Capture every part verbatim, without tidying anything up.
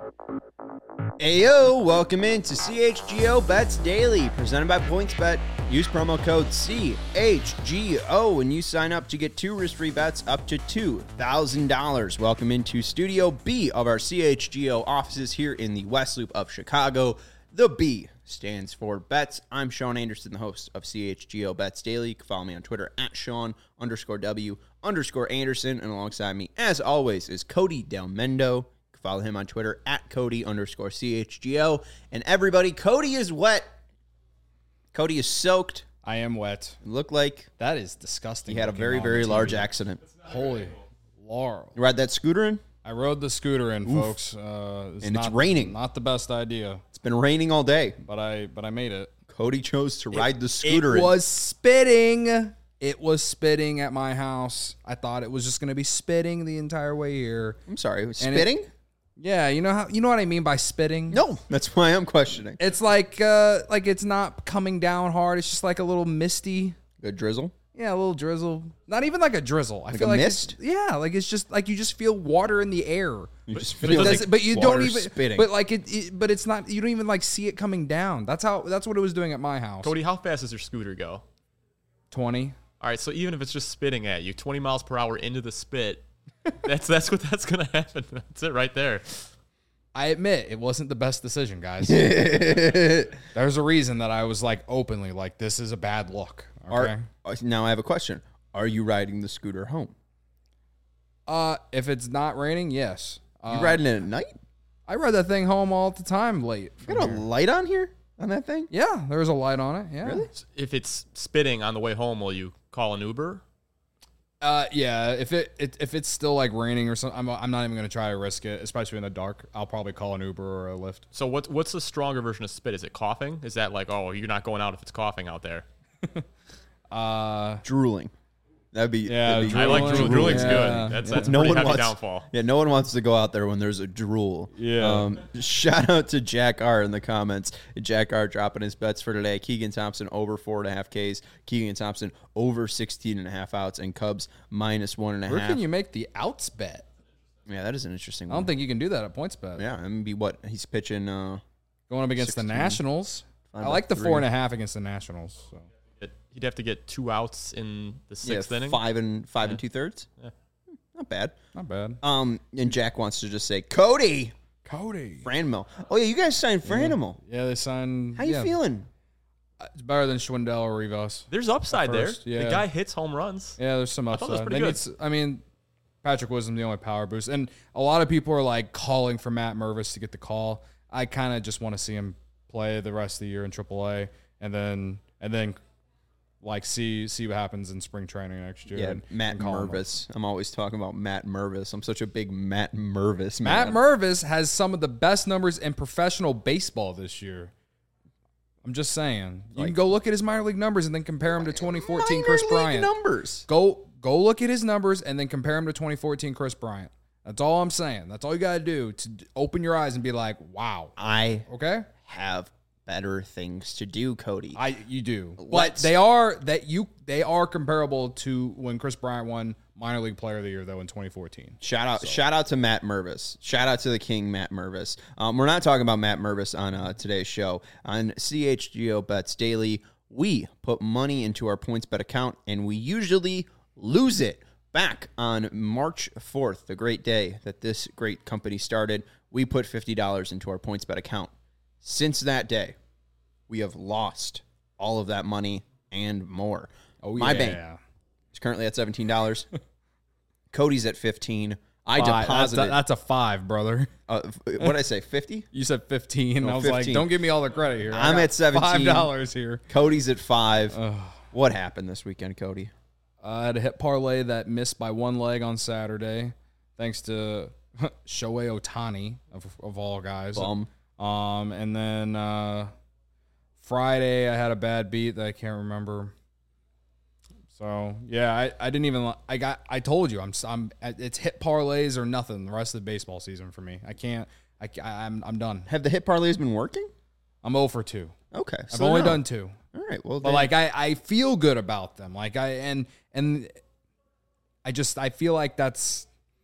Ayo, welcome into C H G O Bets Daily, presented by PointsBet. Use promo code C H G O when you sign up to get two risk-free bets up to two thousand dollars. Welcome into Studio B of our C H G O offices here in the West Loop of Chicago. The B stands for Bets. I'm Sean Anderson, the host of C H G O Bets Daily. You can follow me on Twitter at Sean underscore W underscore Anderson. And alongside me, as always, is Cody Del Mendo. Follow him on Twitter at Cody underscore C H G O. And everybody, Cody is wet. Cody is soaked. I am wet. It looked like that is disgusting. He had a very, very large accident. Holy Lord. You ride that scooter in? I rode the scooter in, Oof. folks. Uh, it's and not, it's raining. Not the best idea. It's been raining all day. But I but I made it. Cody chose to ride it, the scooter it in. It was spitting. It was spitting at my house. I thought it was just going to be spitting the entire way here. I'm sorry. It was spitting? It, Yeah, you know how you know what I mean by spitting? No, that's why I'm questioning. It's like uh like it's not coming down hard. It's just like a little misty. Good drizzle? Yeah, a little drizzle. Not even like a drizzle. I like feel a like mist? It's, yeah, like it's just like you just feel water in the air. You just but, feel it like but you don't even spitting. But like it, it but it's not you don't even like see it coming down. That's how that's what it was doing at my house. Cody, how fast does your scooter go? twenty. All right, so even if it's just spitting at you, twenty miles per hour into the spit, that's that's what that's going to happen. That's it right there. I admit it wasn't the best decision, guys. There's a reason that I was like openly like, this is a bad look. Okay. Are, now I have a question. Are you riding the scooter home? Uh, if it's not raining, yes. You uh, riding it at night? I ride that thing home all the time late. You got a light on here on that thing? Yeah, there's a light on it. Yeah. Really? If it's spitting on the way home, will you call an Uber? Uh, yeah. If it, it if it's still like raining or something, I'm I'm not even gonna try to risk it, especially in the dark. I'll probably call an Uber or a Lyft. So what's what's the stronger version of spit? Is it coughing? Is that like, oh, you're not going out if it's coughing out there? uh, drooling. That'd be. Yeah, that'd be I like drool. Drooling's yeah. good. That's that's no pretty one heavy wants, downfall. Yeah, no one wants to go out there when there's a drool. Yeah. Um, shout out to Jack R in the comments. Jack R dropping his bets for today. Keegan Thompson over four and a half Ks. Keegan Thompson over sixteen and a half outs, and Cubs minus one and a Where half. can you make the outs bet? Yeah, that is an interesting one. I don't think you can do that at PointsBet. Yeah, I mean, be what he's pitching. Uh, Going up against sixteen. the Nationals. Five I like the by four three. and a half against the Nationals. So. It, he'd have to get two outs in the sixth yeah, inning. five and five Yeah. and two thirds. Yeah. Not bad. Not bad. Um, and Jack wants to just say Cody Cody. Franmil. Oh yeah, you guys signed Franmil. Yeah, they signed. How you yeah. feeling? It's better than Schwindel or Rivas. There's upside there. First, yeah. The guy hits home runs. Yeah, there's some I thought upside. that was pretty They good. need s- I mean, Patrick Wisdom, the only power boost. And a lot of people are like calling for Matt Mervis to get the call. I kind of just want to see him play the rest of the year in triple A and then and then like see see what happens in spring training next year. Yeah, and, Matt and call him up. Mervis. I'm always talking about Matt Mervis. I'm such a big Matt Mervis Matt man. Mervis has some of the best numbers in professional baseball this year. I'm just saying. You Like- can go look at his minor league numbers and then compare him to twenty fourteen Minor Chris league Bryant. numbers. Go go look at his numbers and then compare him to twenty fourteen Chris Bryant. That's all I'm saying. That's all you got to do to d- open your eyes and be like, wow. I Okay? have better things to do, Cody. I you do. But Let's- they are that you they are comparable to when Chris Bryant won minor league player of the year though in twenty fourteen. Shout out, shout out to Matt Mervis. Shout out to the King, Matt Mervis. Um, we're not talking about Matt Mervis on uh, today's show. On C H G O Bets Daily, we put money into our PointsBet account, and we usually lose it. Back on March fourth, the great day that this great company started, we put fifty dollars into our PointsBet account. Since that day, we have lost all of that money and more. Oh My yeah. bank is currently at seventeen dollars. Cody's at fifteen dollars. I Five. deposited. That's a, that's a five, brother. uh, what did I say, fifty? You said fifteen. Oh, I was fifteen. like, don't give me all the credit here. I I'm got at seventeen. Five dollars here. Cody's at five. Ugh. What happened this weekend, Cody? Uh, I had a hit parlay that missed by one leg on Saturday, thanks to Shohei Ohtani of, of all guys. Bum. Um, and then uh, Friday I had a bad beat that I can't remember. So yeah, I, I didn't even I got I told you I'm I'm it's hit parlays or nothing the rest of the baseball season for me. I can't I I'm I'm done. Have the hit parlays been working? I'm zero for two. Okay. I've so only no. done two. All right. Well, But then- like I, I feel good about them. Like I and and I just I feel like that's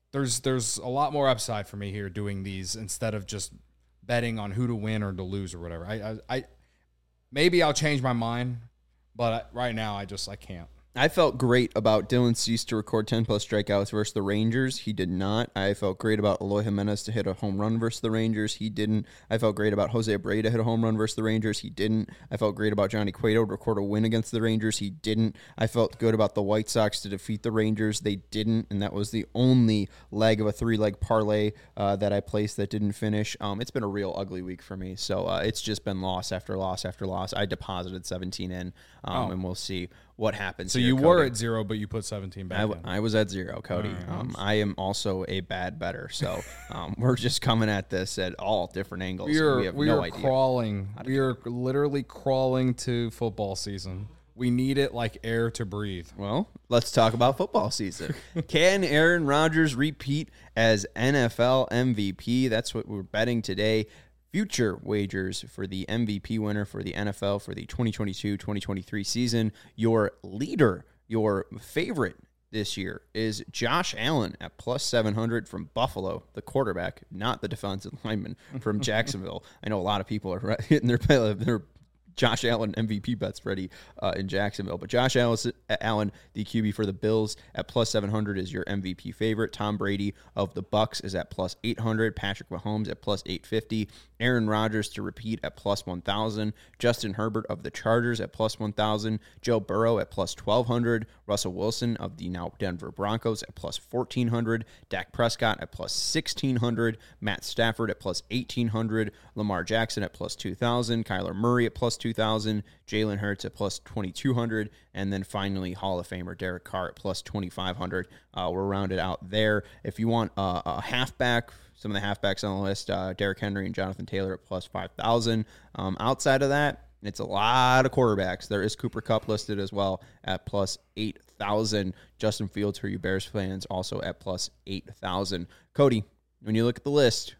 there's there's a lot more upside for me here doing these instead of just betting on who to win or to lose or whatever. I I, I maybe I'll change my mind, but right now I just I can't. I felt great about Dylan Cease to record ten plus strikeouts versus the Rangers. He did not. I felt great about Eloy Jimenez to hit a home run versus the Rangers. He didn't. I felt great about Jose Abreu to hit a home run versus the Rangers. He didn't. I felt great about Johnny Cueto to record a win against the Rangers. He didn't. I felt good about the White Sox to defeat the Rangers. They didn't, and that was the only leg of a three-leg parlay uh, that I placed that didn't finish. Um, it's been a real ugly week for me, so uh, it's just been loss after loss after loss. I deposited seventeen in, um, Oh. and we'll see what happens. So here, you Cody. were at zero, but you put seventeen back I, in. w- I was at zero, Cody. All right. Um, I am also a bad bettor, so um, we're just coming at this at all different angles. We are we have we no are idea. crawling. We are literally crawling to football season. We need it like air to breathe. Well, let's talk about football season. Can Aaron Rodgers repeat as N F L M V P? That's what we're betting today. Future wagers for the M V P winner for the N F L for the twenty twenty-two twenty twenty-three season. Your leader, your favorite this year is Josh Allen at plus seven hundred from Buffalo, the quarterback, not the defensive lineman from Jacksonville. I know a lot of people are hitting their, their Josh Allen M V P bets ready uh, in Jacksonville. But Josh Allen, the Q B for the Bills, at plus seven hundred is your M V P favorite. Tom Brady of the Bucks is at plus eight hundred. Patrick Mahomes at plus eight fifty. Aaron Rodgers to repeat at plus one thousand. Justin Herbert of the Chargers at plus one thousand. Joe Burrow at plus twelve hundred. Russell Wilson of the now Denver Broncos at plus fourteen hundred. Dak Prescott at plus sixteen hundred. Matt Stafford at plus eighteen hundred. Lamar Jackson at plus two thousand. Kyler Murray at plus two thousand. Jalen Hurts at plus twenty-two hundred. And then finally, Hall of Famer Derek Carr at plus twenty-five hundred. Uh, we're rounded out there. If you want uh, a halfback, some of the halfbacks on the list, uh, Derrick Henry and Jonathan Taylor at plus five thousand. Um, outside of that, it's a lot of quarterbacks. There is Cooper Kupp listed as well at plus eight thousand. Justin Fields, for you Bears fans, also at plus eight thousand. Cody, when you look at the list,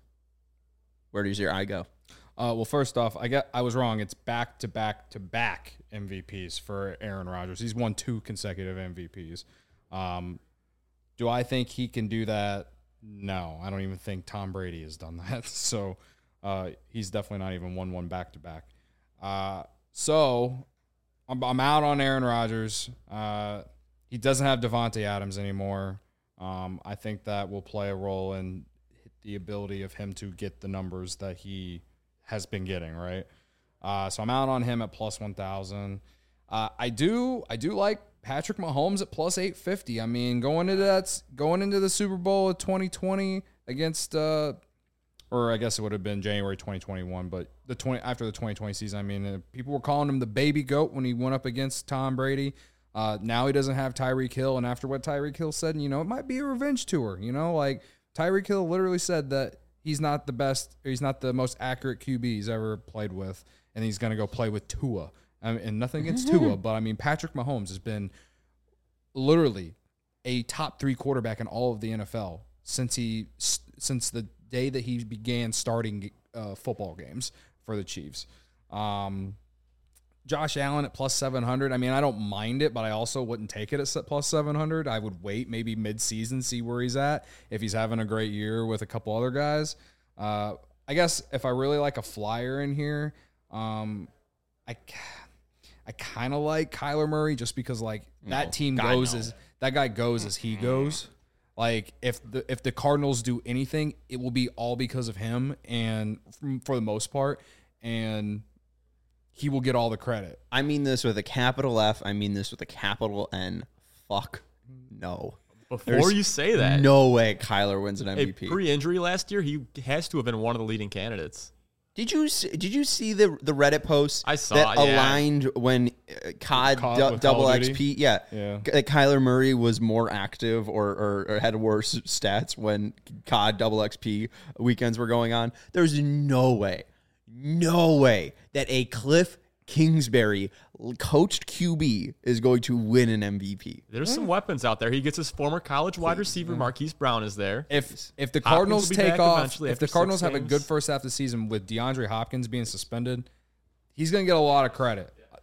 where does your eye go? Uh, well, first off, I got I was wrong. It's back to back to back M V Ps for Aaron Rodgers. He's won two consecutive M V Ps. Um, do I think he can do that? No, I don't even think Tom Brady has done that. So uh, he's definitely not even won one back to back. Uh, so I'm, I'm out on Aaron Rodgers. Uh, he doesn't have Devontae Adams anymore. Um, I think that will play a role in the ability of him to get the numbers that he has been getting, right? Uh, so I'm out on him at plus one thousand. Uh, I do I do like Patrick Mahomes at plus eight fifty. I mean, going into that going into the Super Bowl of twenty twenty against uh, or I guess it would have been January twenty twenty-one, but the twenty after the twenty twenty season, I mean, uh, people were calling him the baby goat when he went up against Tom Brady. Uh, now he doesn't have Tyreek Hill, and after what Tyreek Hill said, you know, it might be a revenge tour. You know, like Tyreek Hill literally said that he's not the best, he's not the most accurate Q B he's ever played with, and he's going to go play with Tua. I mean, and nothing against Tua, but I mean, Patrick Mahomes has been literally a top three quarterback in all of the N F L since he since the day that he began starting uh, football games for the Chiefs. Um, Josh Allen at plus seven hundred. I mean, I don't mind it, but I also wouldn't take it at plus seven hundred. I would wait maybe mid-season, see where he's at. If he's having a great year with a couple other guys. Uh, I guess if I really like a flyer in here, um, I I kind of like Kyler Murray just because, like, that No, team God, goes no. as that guy goes as he goes. Like, if the if the Cardinals do anything, it will be all because of him, and for the most part, and he will get all the credit. I mean this with a capital F. I mean this with a capital N. Fuck no. Before There's you say that, No way Kyler wins an M hey, V P. pre-injury last year, he has to have been one of the leading candidates. Did you see, did you see the the Reddit post I saw that it, yeah. aligned when uh, C O D C O D du- with double Call of X P? Yeah, Yeah. K- Kyler Murray was more active or, or, or had worse stats when C O D double X P weekends were going on. There's no way, no way that a Cliff Kingsbury coached Q B is going to win an M V P. There's some weapons out there. He gets his former college wide receiver, Marquise Brown, is there. If if the Hopkins Cardinals will be take back off, eventually if the after Cardinals six have a games. good first half of the season with DeAndre Hopkins being suspended, he's going to get a lot of credit.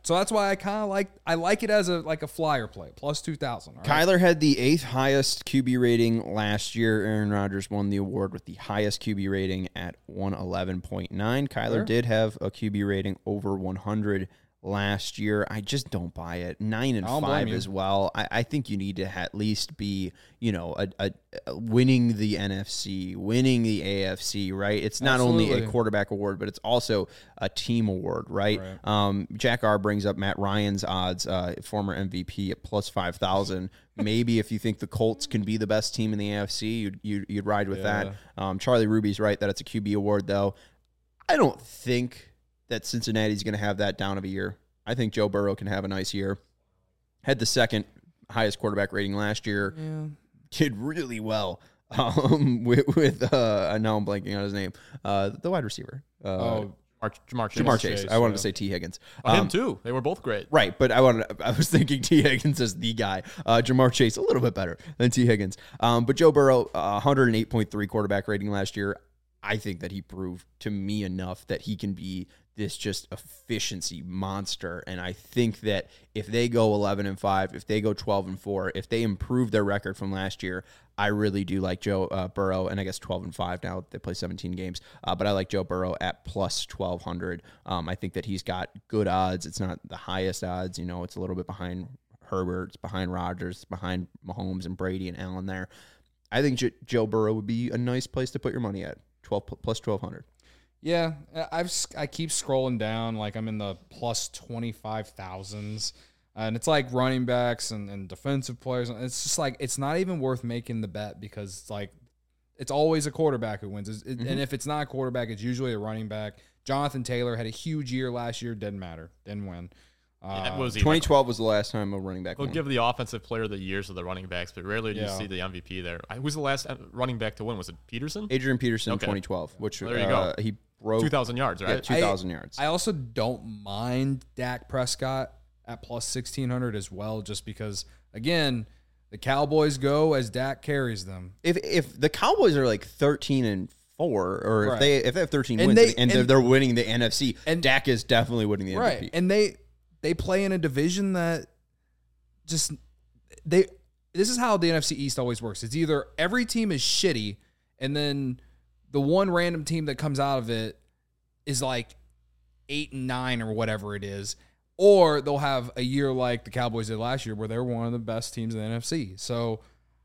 So that's why I kind of like I like it as a like a flyer play, plus two thousand. Kyler had the eighth highest Q B rating last year. Aaron Rodgers won the award with the highest Q B rating at one eleven point nine. Kyler Sure. did have a Q B rating over one hundred last year. I just don't buy it. Nine and I don't blame five you. as well. I, I think you need to at least be, you know, a, a, a winning the N F C, winning the A F C, right? It's not only a Absolutely. quarterback award, but it's also a team award, right? Right. Um, Jack R brings up Matt Ryan's odds, uh, former M V P at plus five thousand. Maybe if you think the Colts can be the best team in the A F C, you'd, you'd, you'd ride with Yeah. that. Um, Charlie Ruby's right that it's a Q B award, though. I don't think that Cincinnati's going to have that down of a year. I think Joe Burrow can have a nice year. Had the second highest quarterback rating last year. Yeah. Did really well um, with, with uh, now I'm blanking on his name, uh, the wide receiver. Uh, Oh, Mark, Jamar Chase. Jamar Chase. Chase, I wanted yeah. to say T. Higgins. Oh, him Um, too. They were both great. Right, but I wanted. I was thinking T. Higgins as the guy. Uh, Jamar Chase a little bit better than T. Higgins. Um, but Joe Burrow, uh, one oh eight point three quarterback rating last year. I think that he proved to me enough that he can be this just efficiency monster. And I think that if they go eleven and five, if they go twelve and four, if they improve their record from last year, I really do like Joe uh, Burrow. And I guess twelve and five now. They play seventeen games. Uh, but I like Joe Burrow at plus twelve hundred. Um, I think that he's got good odds. It's not the highest odds. You know, it's a little bit behind Herbert. It's behind Rodgers. It's behind Mahomes and Brady and Allen there. I think J- Joe Burrow would be a nice place to put your money at. twelve plus twelve hundred. Yeah, I've I keep scrolling down, like I'm in the plus twenty five thousands, and it's like running backs and, and defensive players. And it's just like it's not even worth making the bet because it's like it's always a quarterback who wins, it, Mm-hmm. and if it's not a quarterback, it's usually a running back. Jonathan Taylor had a huge year last year, didn't matter, didn't win. Uh, Yeah, was he twenty twelve was the last time a running back We'll won. give the offensive player of the years of the running backs, but rarely do you Yeah. see the M V P there. I- Who's the last uh, running back to win? Was it Peterson? Adrian Peterson, Okay. twenty twelve, which Well, there you uh, go. he broke two thousand yards, yeah, right? two thousand yards. I also don't mind Dak Prescott at plus sixteen hundred as well, just because again the Cowboys go as Dak carries them. if if the Cowboys are like thirteen and four, or if Right. they if they have thirteen And wins they- and, they're, and- they're winning the N F C, and- Dak is definitely winning the M V P. Right. And they they play in a division that just they this is how the N F C East always works. It's either every team is shitty and then the one random team that comes out of it is like eight and nine or whatever it is, or they'll have a year like the Cowboys did last year where they're one of the best teams in the N F C. So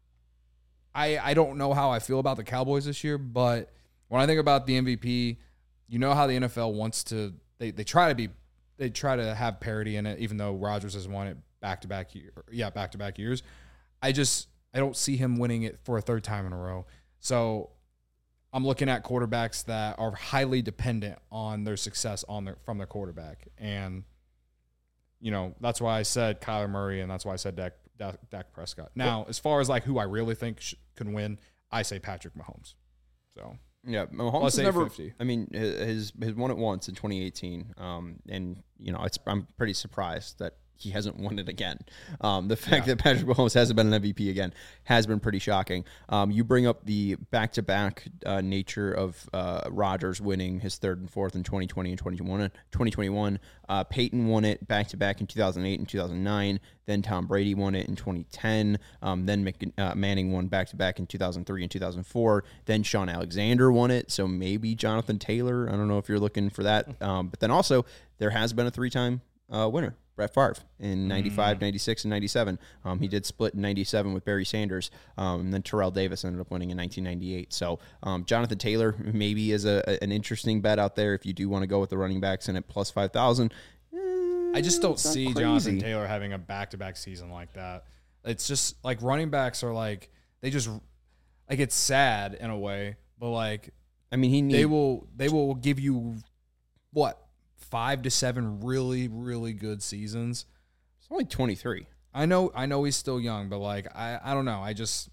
I I don't know how I feel about the Cowboys this year, but when I think about the M V P, you know how the N F L wants to they, they try to be they try to have parity in it, even though Rodgers has won it back to back year yeah, back to back years. I just I don't see him winning it for a third time in a row. So I'm looking at quarterbacks that are highly dependent on their success on their from their quarterback. And you know, that's why I said Kyler Murray, and that's why I said Dak, Dak, Dak Prescott. Now, as far as like who I really think sh- can win, I say Patrick Mahomes. So Yeah, Mahomes Plus has never. eight fifty. I mean, his his won it once in twenty eighteen, um, and you know, it's I'm pretty surprised that he hasn't won it again. Um, the fact Yeah. that Patrick Mahomes hasn't been an M V P again has been pretty shocking. Um, you bring up the back-to-back uh, nature of uh, Rodgers winning his third and fourth in twenty twenty and twenty twenty-one. Uh, Peyton won it back-to-back in two thousand eight and two thousand nine. Then Tom Brady won it in twenty ten. Um, then Mc, uh, Manning won back-to-back in two thousand three and two thousand four. Then Sean Alexander won it. So maybe Jonathan Taylor. I don't know if you're looking for that. Um, but then also there has been a three-time uh, winner. Brett Favre in ninety-five, ninety-six, and ninety-seven. Um, he did split in ninety-seven with Barry Sanders. Um, and then Terrell Davis ended up winning in nineteen ninety-eight. So um, Jonathan Taylor maybe is a, a- an interesting bet out there if you do want to go with the running backs and at plus five thousand. I just don't it's not see crazy. Jonathan Taylor having a back-to-back season like that. It's just like running backs are like they just like it's sad in a way, but like I mean, he they needs. will they will give you what five to seven really really good seasons. It's only twenty-three. I know I know he's still young, but like I I don't know. I just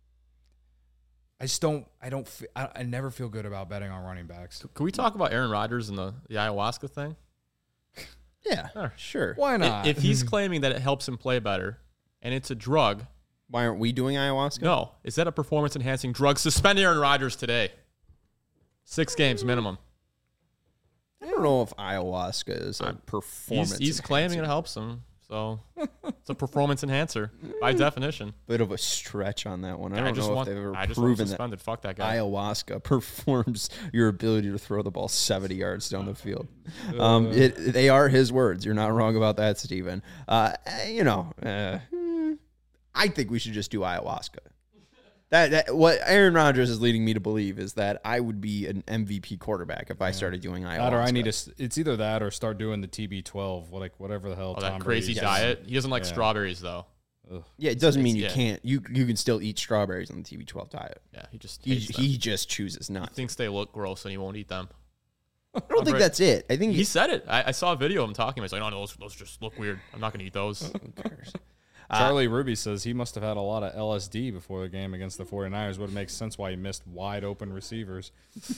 I just don't I don't fe- I, I never feel good about betting on running backs. Can we talk about Aaron Rodgers and the, the ayahuasca thing? Yeah, Sure. sure. Why I- not? If he's claiming that it helps him play better and it's a drug, Why aren't we doing ayahuasca? no. Is that a performance enhancing drug? Suspend Aaron Rodgers today. Six games minimum. Never don't know if ayahuasca is a performance. He's, he's claiming it helps him. So it's a performance enhancer by definition. Bit of a stretch on that one. I I don't just know want, if they've ever I just want proven him that suspended. Fuck that guy. ayahuasca performs your ability to throw the ball seventy yards down the field. Um, it, they are his words. You're not wrong about that, Steven. Uh, you know, uh, I think we should just do ayahuasca. That, that what Aaron Rodgers is leading me to believe is that I would be an M V P quarterback if I started doing ayahuasca. That or I need to. It's either that or start doing the T B twelve, like whatever the hell. Oh, Tom that crazy Brady diet. He doesn't like Yeah. strawberries though. Ugh. Yeah, it doesn't mean you yeah. can't. You you can still eat strawberries on the T B twelve diet. Yeah, he just He, hates them. he just chooses not. He thinks they look gross and he won't eat them. I don't think Right. that's it. I think He said it. I, I saw a video of him talking. He's like, "No, no, those, those just look weird. I'm not gonna eat those." who cares? Charlie Ruby says he must have had a lot of L S D before the game against the 49ers. Would make sense why he missed wide open receivers.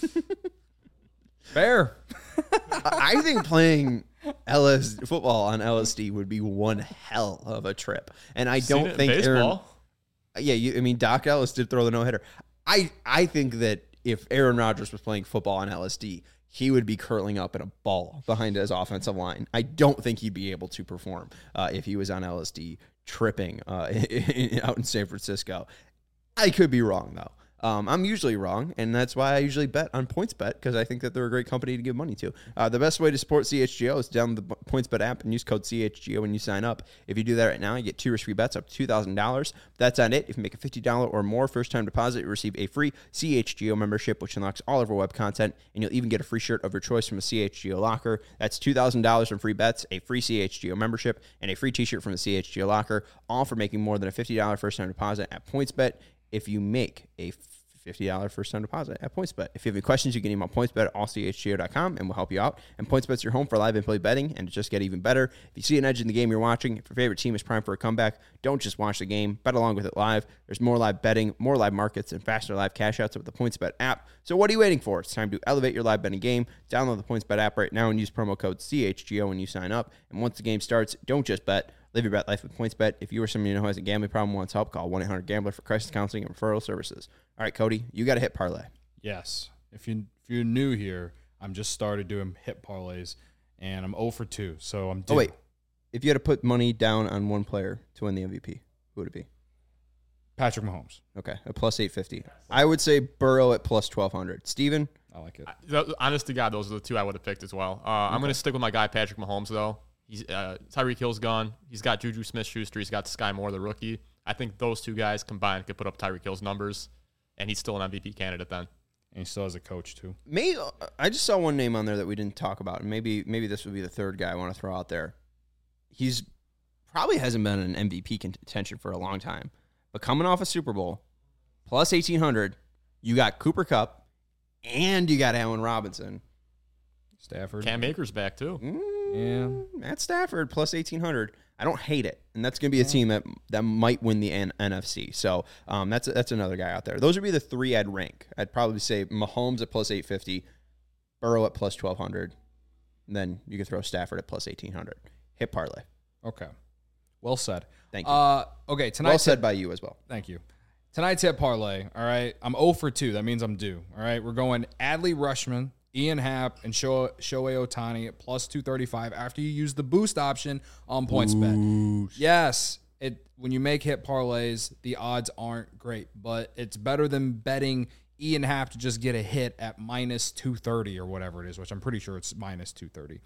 Fair. I think playing L S football on L S D would be one hell of a trip, and I Seen don't it in think Aaron. baseball. Yeah, you, I mean Doc Ellis did throw the no hitter. I I think that if Aaron Rodgers was playing football on L S D, he would be curling up in a ball behind his offensive line. I don't think he'd be able to perform uh, if he was on L S D tripping uh, out in San Francisco. I could be wrong though. Um, I'm usually wrong, and that's why I usually bet on PointsBet, because I think that they're a great company to give money to. Uh, the best way to support C H G O is to download the PointsBet app and use code C H G O when you sign up. If you do that right now, you get two risk-free bets up to two thousand dollars. That's on it. If you make a fifty dollars or more first-time deposit, you receive a free C H G O membership, which unlocks all of our web content, and you'll even get a free shirt of your choice from a C H G O locker. That's two thousand dollars from free bets, a free C H G O membership, and a free t-shirt from the C H G O locker, all for making more than a fifty dollars first-time deposit at PointsBet. If you make a fifty dollars first-time deposit at PointsBet. If you have any questions, you can email PointsBet at all c h g o dot com, and we'll help you out. And PointsBet's your home for live and play betting, and to just get even better. If you see an edge in the game you're watching, if your favorite team is primed for a comeback, don't just watch the game. Bet along with it live. There's more live betting, more live markets, and faster live cash outs with the PointsBet app. So what are you waiting for? It's time to elevate your live betting game. Download the PointsBet app right now and use promo code C H G O when you sign up. And once the game starts, don't just bet. Live your bet life with PointsBet. If you or someone you know who has a gambling problem and wants help, call one eight hundred gambler for crisis counseling and referral services. All right, Cody, you got to hit parlay. Yes. If you if you're new here, I'm just started doing hit parlays, and I'm zero for two. So I'm. Due. Oh wait, if you had to put money down on one player to win the M V P, who would it be? Patrick Mahomes. Okay, a plus eight fifty. I would say Burrow at plus twelve hundred. Steven? I like it. Th- Honest to God, those are the two I would have picked as well. Uh, I'm going to stick with my guy, Patrick Mahomes, though. He's uh, Tyreek Hill's gone. He's got Juju Smith-Schuster. He's got Sky Moore, the rookie. I think those two guys combined could put up Tyreek Hill's numbers, and he's still an M V P candidate then. And he still has a coach too. Maybe I just saw one name on there that we didn't talk about, and maybe maybe this would be the third guy I want to throw out there. He's probably hasn't been in M V P contention for a long time, but coming off a Super Bowl, plus eighteen hundred, you got Cooper Kupp, and you got Allen Robinson. Stafford. Cam Akers back too. Mm, Yeah. Matt Stafford plus eighteen hundred. I don't hate it, and that's going to be a team that that might win the N- NFC. So um, that's that's another guy out there. Those would be the three I'd rank. I'd probably say Mahomes at plus eight fifty, Burrow at plus twelve hundred, and then you could throw Stafford at plus eighteen hundred. Hit parlay. Okay. Well said. Thank you. Uh, okay. Tonight. well said by you as well. Thank you. Tonight's hit parlay. All right. I'm zero for two. That means I'm due. All right. We're going Adley Rushman, Ian Happ, and Sho- Shohei Ohtani at plus two thirty-five after you use the boost option on PointsBet. Yes. It when you make hit parlays, the odds aren't great, but it's better than betting Ian Happ to just get a hit at minus two thirty or whatever it is, which I'm pretty sure it's minus two thirty.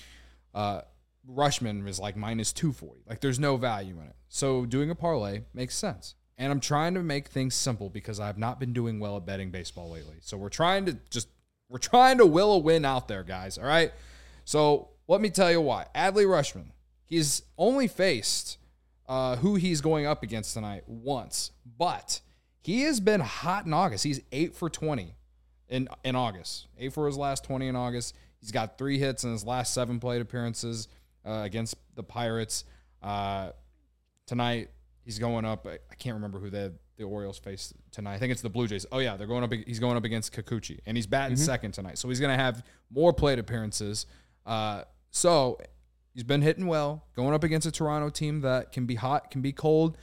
Uh, Rushman is like minus two forty. Like there's no value in it. So doing a parlay makes sense. And I'm trying to make things simple because I've not been doing well at betting baseball lately. So we're trying to just, we're trying to will a win out there, guys. All right. So let me tell you why. Adley Rushman, he's only faced uh, who he's going up against tonight once, but he has been hot in August. He's eight for twenty in, in August, eight for his last twenty in August. He's got three hits in his last seven plate appearances uh, against the Pirates. Uh, tonight, he's going up. I can't remember who the the Orioles face tonight. I think it's the Blue Jays. Oh yeah, they're going up. He's going up against Kikuchi, and he's batting mm-hmm. second tonight. So he's going to have more plate appearances. Uh, so he's been hitting well, going up against a Toronto team that can be hot, can be cold.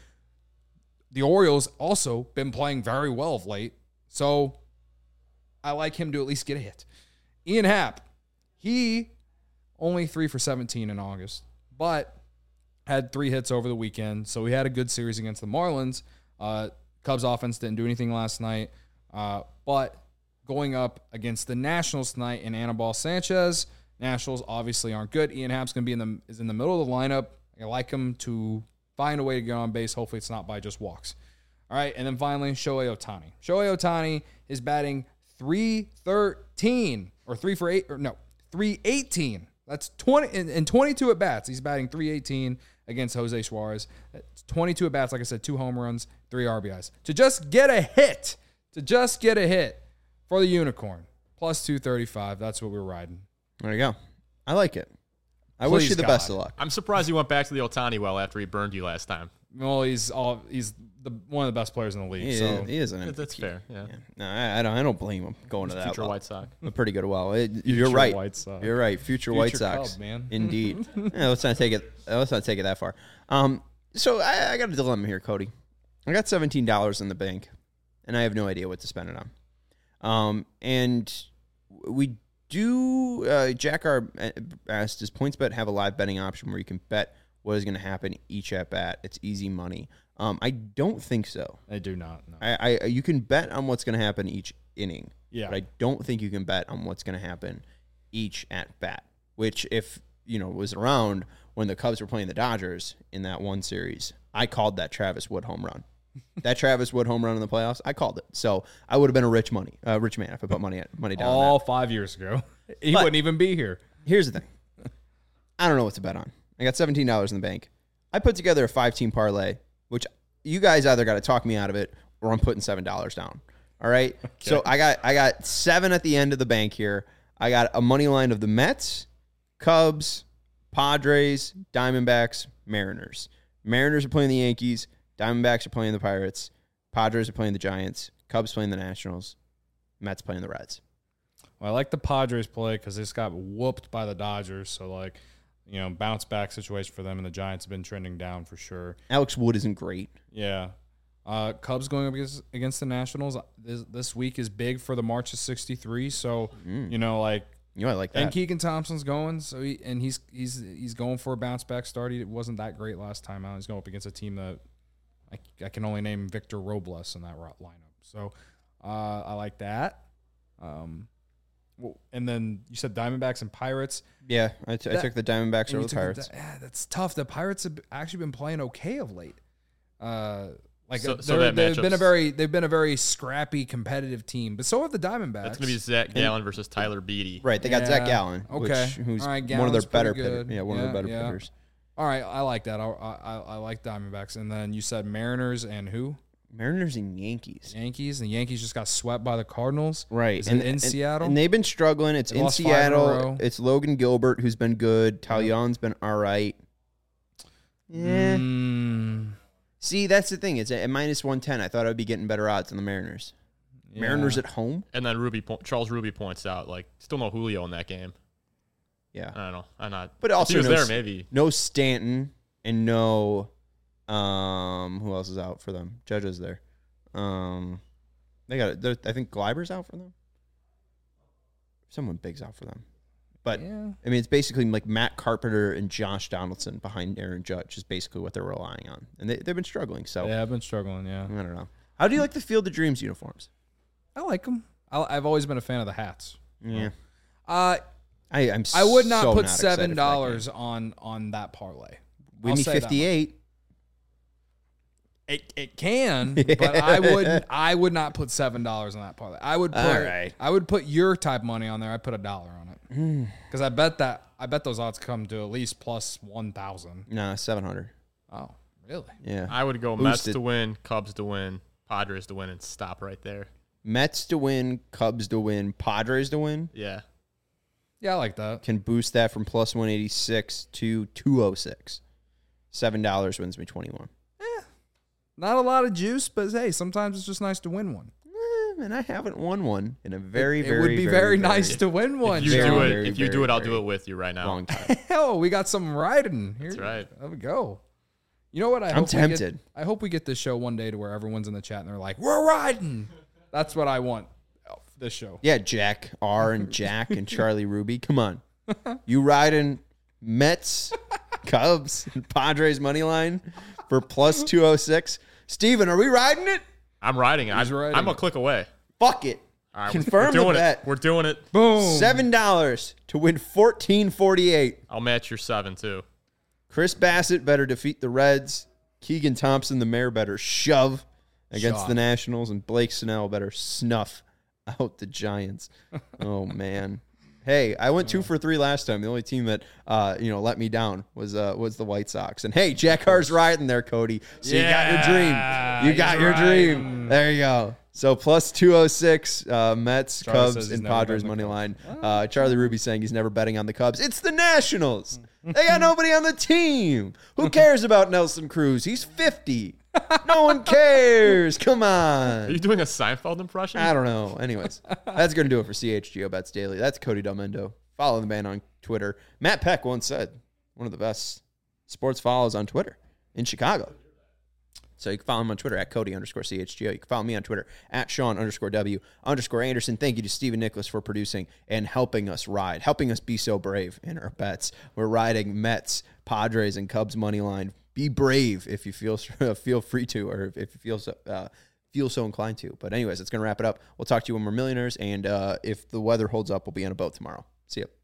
The Orioles also been playing very well of late, so I like him to at least get a hit. Ian Happ, He only three for seventeen in August, but had three hits over the weekend. So he had a good series against the Marlins. Uh, Cubs offense didn't do anything last night, uh, but going up against the Nationals tonight in Anibal Sanchez, Nationals obviously aren't good. Ian Happ's going to be in the is in the middle of the lineup. I like him to find a way to get on base. Hopefully it's not by just walks. All right, and then finally, Shohei Ohtani. Shohei Ohtani is batting three thirteen, or three for eight, or no, three eighteen. That's twenty, in, in twenty-two at-bats. He's batting three eighteen against Jose Suarez. That's twenty-two at-bats, like I said, two home runs, three R B Is. To just get a hit, to just get a hit for the Unicorn, plus two thirty-five. That's what we're riding. There you go. I like it. I Please wish you the God. best of luck. I'm surprised you went back to the Ohtani well after he burned you last time. Well, he's all he's the one of the best players in the league. He, so he isn't. That's, that's fair. Yeah. Yeah. No, I, I don't. I don't blame him going to that. Future well. White Sox. A pretty good well. It, you're Future right. White Sox. You're right. Future, White Sox, Cub, man. Indeed. Yeah, let's not take it. Let's not take it that far. Um. So I, I got a dilemma here, Cody. I got seventeen dollars in the bank, and I have no idea what to spend it on. Um. And we do. Uh, Jack R asked, does PointsBet have a live betting option where you can bet what is going to happen each at bat? It's easy money. Um, I don't think so. I do not. No. I, I you can bet on what's going to happen each inning. Yeah. But I don't think you can bet on what's going to happen each at bat. Which, if you know, was around when the Cubs were playing the Dodgers in that one series, I called that Travis Wood home run. That Travis Wood home run in the playoffs, I called it. So I would have been a rich money, uh, rich man if I put money at, money down. All on that. five years ago, he But- wouldn't even be here. Here's the thing. I don't know what to bet on. I got seventeen dollars in the bank. I put together a five-team parlay, which you guys either got to talk me out of it or I'm putting seven dollars down. All right? Okay. So I got I got seven at the end of the bank here. I got a money line of the Mets, Cubs, Padres, Diamondbacks, Mariners. Mariners are playing the Yankees. Diamondbacks are playing the Pirates. Padres are playing the Giants. Cubs playing the Nationals. Mets playing the Reds. Well, I like the Padres play because they just got whooped by the Dodgers. So, like, you know, bounce back situation for them, and the Giants have been trending down for sure. Alex Wood isn't great. Yeah. Uh, Cubs going up against, against the Nationals this, this week is big for the March of sixty-three. So, Mm. you know, like, You know, I like that. and Keegan Thompson's going, so he, and he's he's he's going for a bounce back start. He wasn't that great last time out. He's going up against a team that I, I can only name Victor Robles in that ro- lineup. So uh, I like that. Um, well, and then you said Diamondbacks and Pirates. Yeah, I, t- I That- took the Diamondbacks And over you the took Pirates. The, yeah, that's tough. The Pirates have actually been playing okay of late. Uh, like So- they're- so that they've been a matchup's- very they've been a very scrappy competitive team, but so have the Diamondbacks. That's going to be Zach Gallen versus Tyler Beatty. Right, they got Zach Yeah, Gallen, okay. which, who's All right, one of Gallen's their better pretty hitters. good. Yeah, one of Yeah, their better yeah. hitters. All right, I like that. I, I I like Diamondbacks, and then you said Mariners and who? Mariners and Yankees. Yankees. The Yankees just got swept by the Cardinals. Right. Is and, it in and- Seattle? And they've been struggling. It's They in lost five in a Seattle. row. It's Logan Gilbert, who's been good. Yeah. Talion's been all right. Yeah. Mm, See, that's the thing. It's at minus one ten. I thought I'd be getting better odds than the Mariners. yeah. Mariners at home? And then Ruby po- Charles Ruby points out, like, still no Julio in that game. Yeah. I don't know. I'm not. But if also he was no, there, s- maybe. no Stanton and no um who else is out for them? Judge is there. Um they got it. I think Gleiber's out for them. Someone big's out for them. But yeah. I mean, it's basically like Matt Carpenter and Josh Donaldson behind Aaron Judge is basically what they're relying on. And they, they've been struggling. So Yeah, I've been struggling. Yeah, I don't know. How do you like the Field of Dreams uniforms? I like them. I, I've always been a fan of the hats. Yeah. Uh, I, I'm I would not so put excited for that seven game. dollars on on that parlay. Win I'll me say that fifty-eight. It it can, but I wouldn't. I would not put seven dollars on that parlay. I would put. All right. I would put your type money on there. I'd put a dollar on it Hmm. because I bet that I bet those odds come to at least plus one thousand. Nah, seven hundred. Oh, really? Yeah. I would go Mets Boosted. to win, Cubs to win, Padres to win, and stop right there. Mets to win, Cubs to win, Padres to win. Yeah. Yeah, I like that. Can boost that from plus one eighty-six to two oh six. seven dollars wins me twenty-one. Not a lot of juice, but hey, sometimes it's just nice to win one. Eh, and I haven't won one in a very, it, very, it would be very, nice to win one. If you Very, do it, very, if you do very, it, I'll very do it with you right now. long time. Hell, we got some riding here. That's right. There we go. You know what? I I'm hope we get- tempted. I hope we get this show one day to where everyone's in the chat and they're like, "We're riding." That's what I want. oh, This show. Yeah, Jack R and Jack and Charlie Ruby. Come on. You riding Mets, Cubs, and Padres money line for plus two oh six. Steven, are we riding it? I'm riding it. He's I'm, riding I'm a it. click away. Fuck it. All right, Confirm we're the doing bet. it. We're doing it. Boom. seven dollars to win fourteen forty-eight. I'll match your seven too. Chris Bassett better defeat the Reds. Keegan Thompson, the mayor, better shove against Shove. the Nationals. And Blake Snell better snuff out the Giants. Oh, man. Hey, I went two for three last time. The only team that uh, you know let me down was uh, was the White Sox. And hey, Jack Carr's riding there, Cody. So Yeah, you got your dream. You got he's your riding. dream. There you go. So plus two oh six, uh, Mets, Charlie says Cubs, he's and never Padres betting the money Cubs. line. Uh, Charlie Ruby saying he's never betting on the Cubs. It's the Nationals. They got nobody on the team. Who cares about Nelson Cruz? He's fifty. No one cares. Come Are on. you doing a Seinfeld impression? I don't know. Anyways, that's going to do it for C H G O Bets Daily. That's Cody Delmendo. Follow the man on Twitter. Matt Peck once said, one of the best sports follows on Twitter in Chicago. So you can follow him on Twitter at Cody underscore C H G O. You can follow me on Twitter at Sean underscore W underscore Anderson. Thank you to Stephen Nicholas for producing and helping us ride, helping us be so brave in our bets. We're riding Mets, Padres, and Cubs money line. Be brave if you feel feel free to, or if you feel so, uh, feel so inclined to. But anyways, it's going to wrap it up. We'll talk to you when we're millionaires, and uh, if the weather holds up, we'll be on a boat tomorrow. See ya.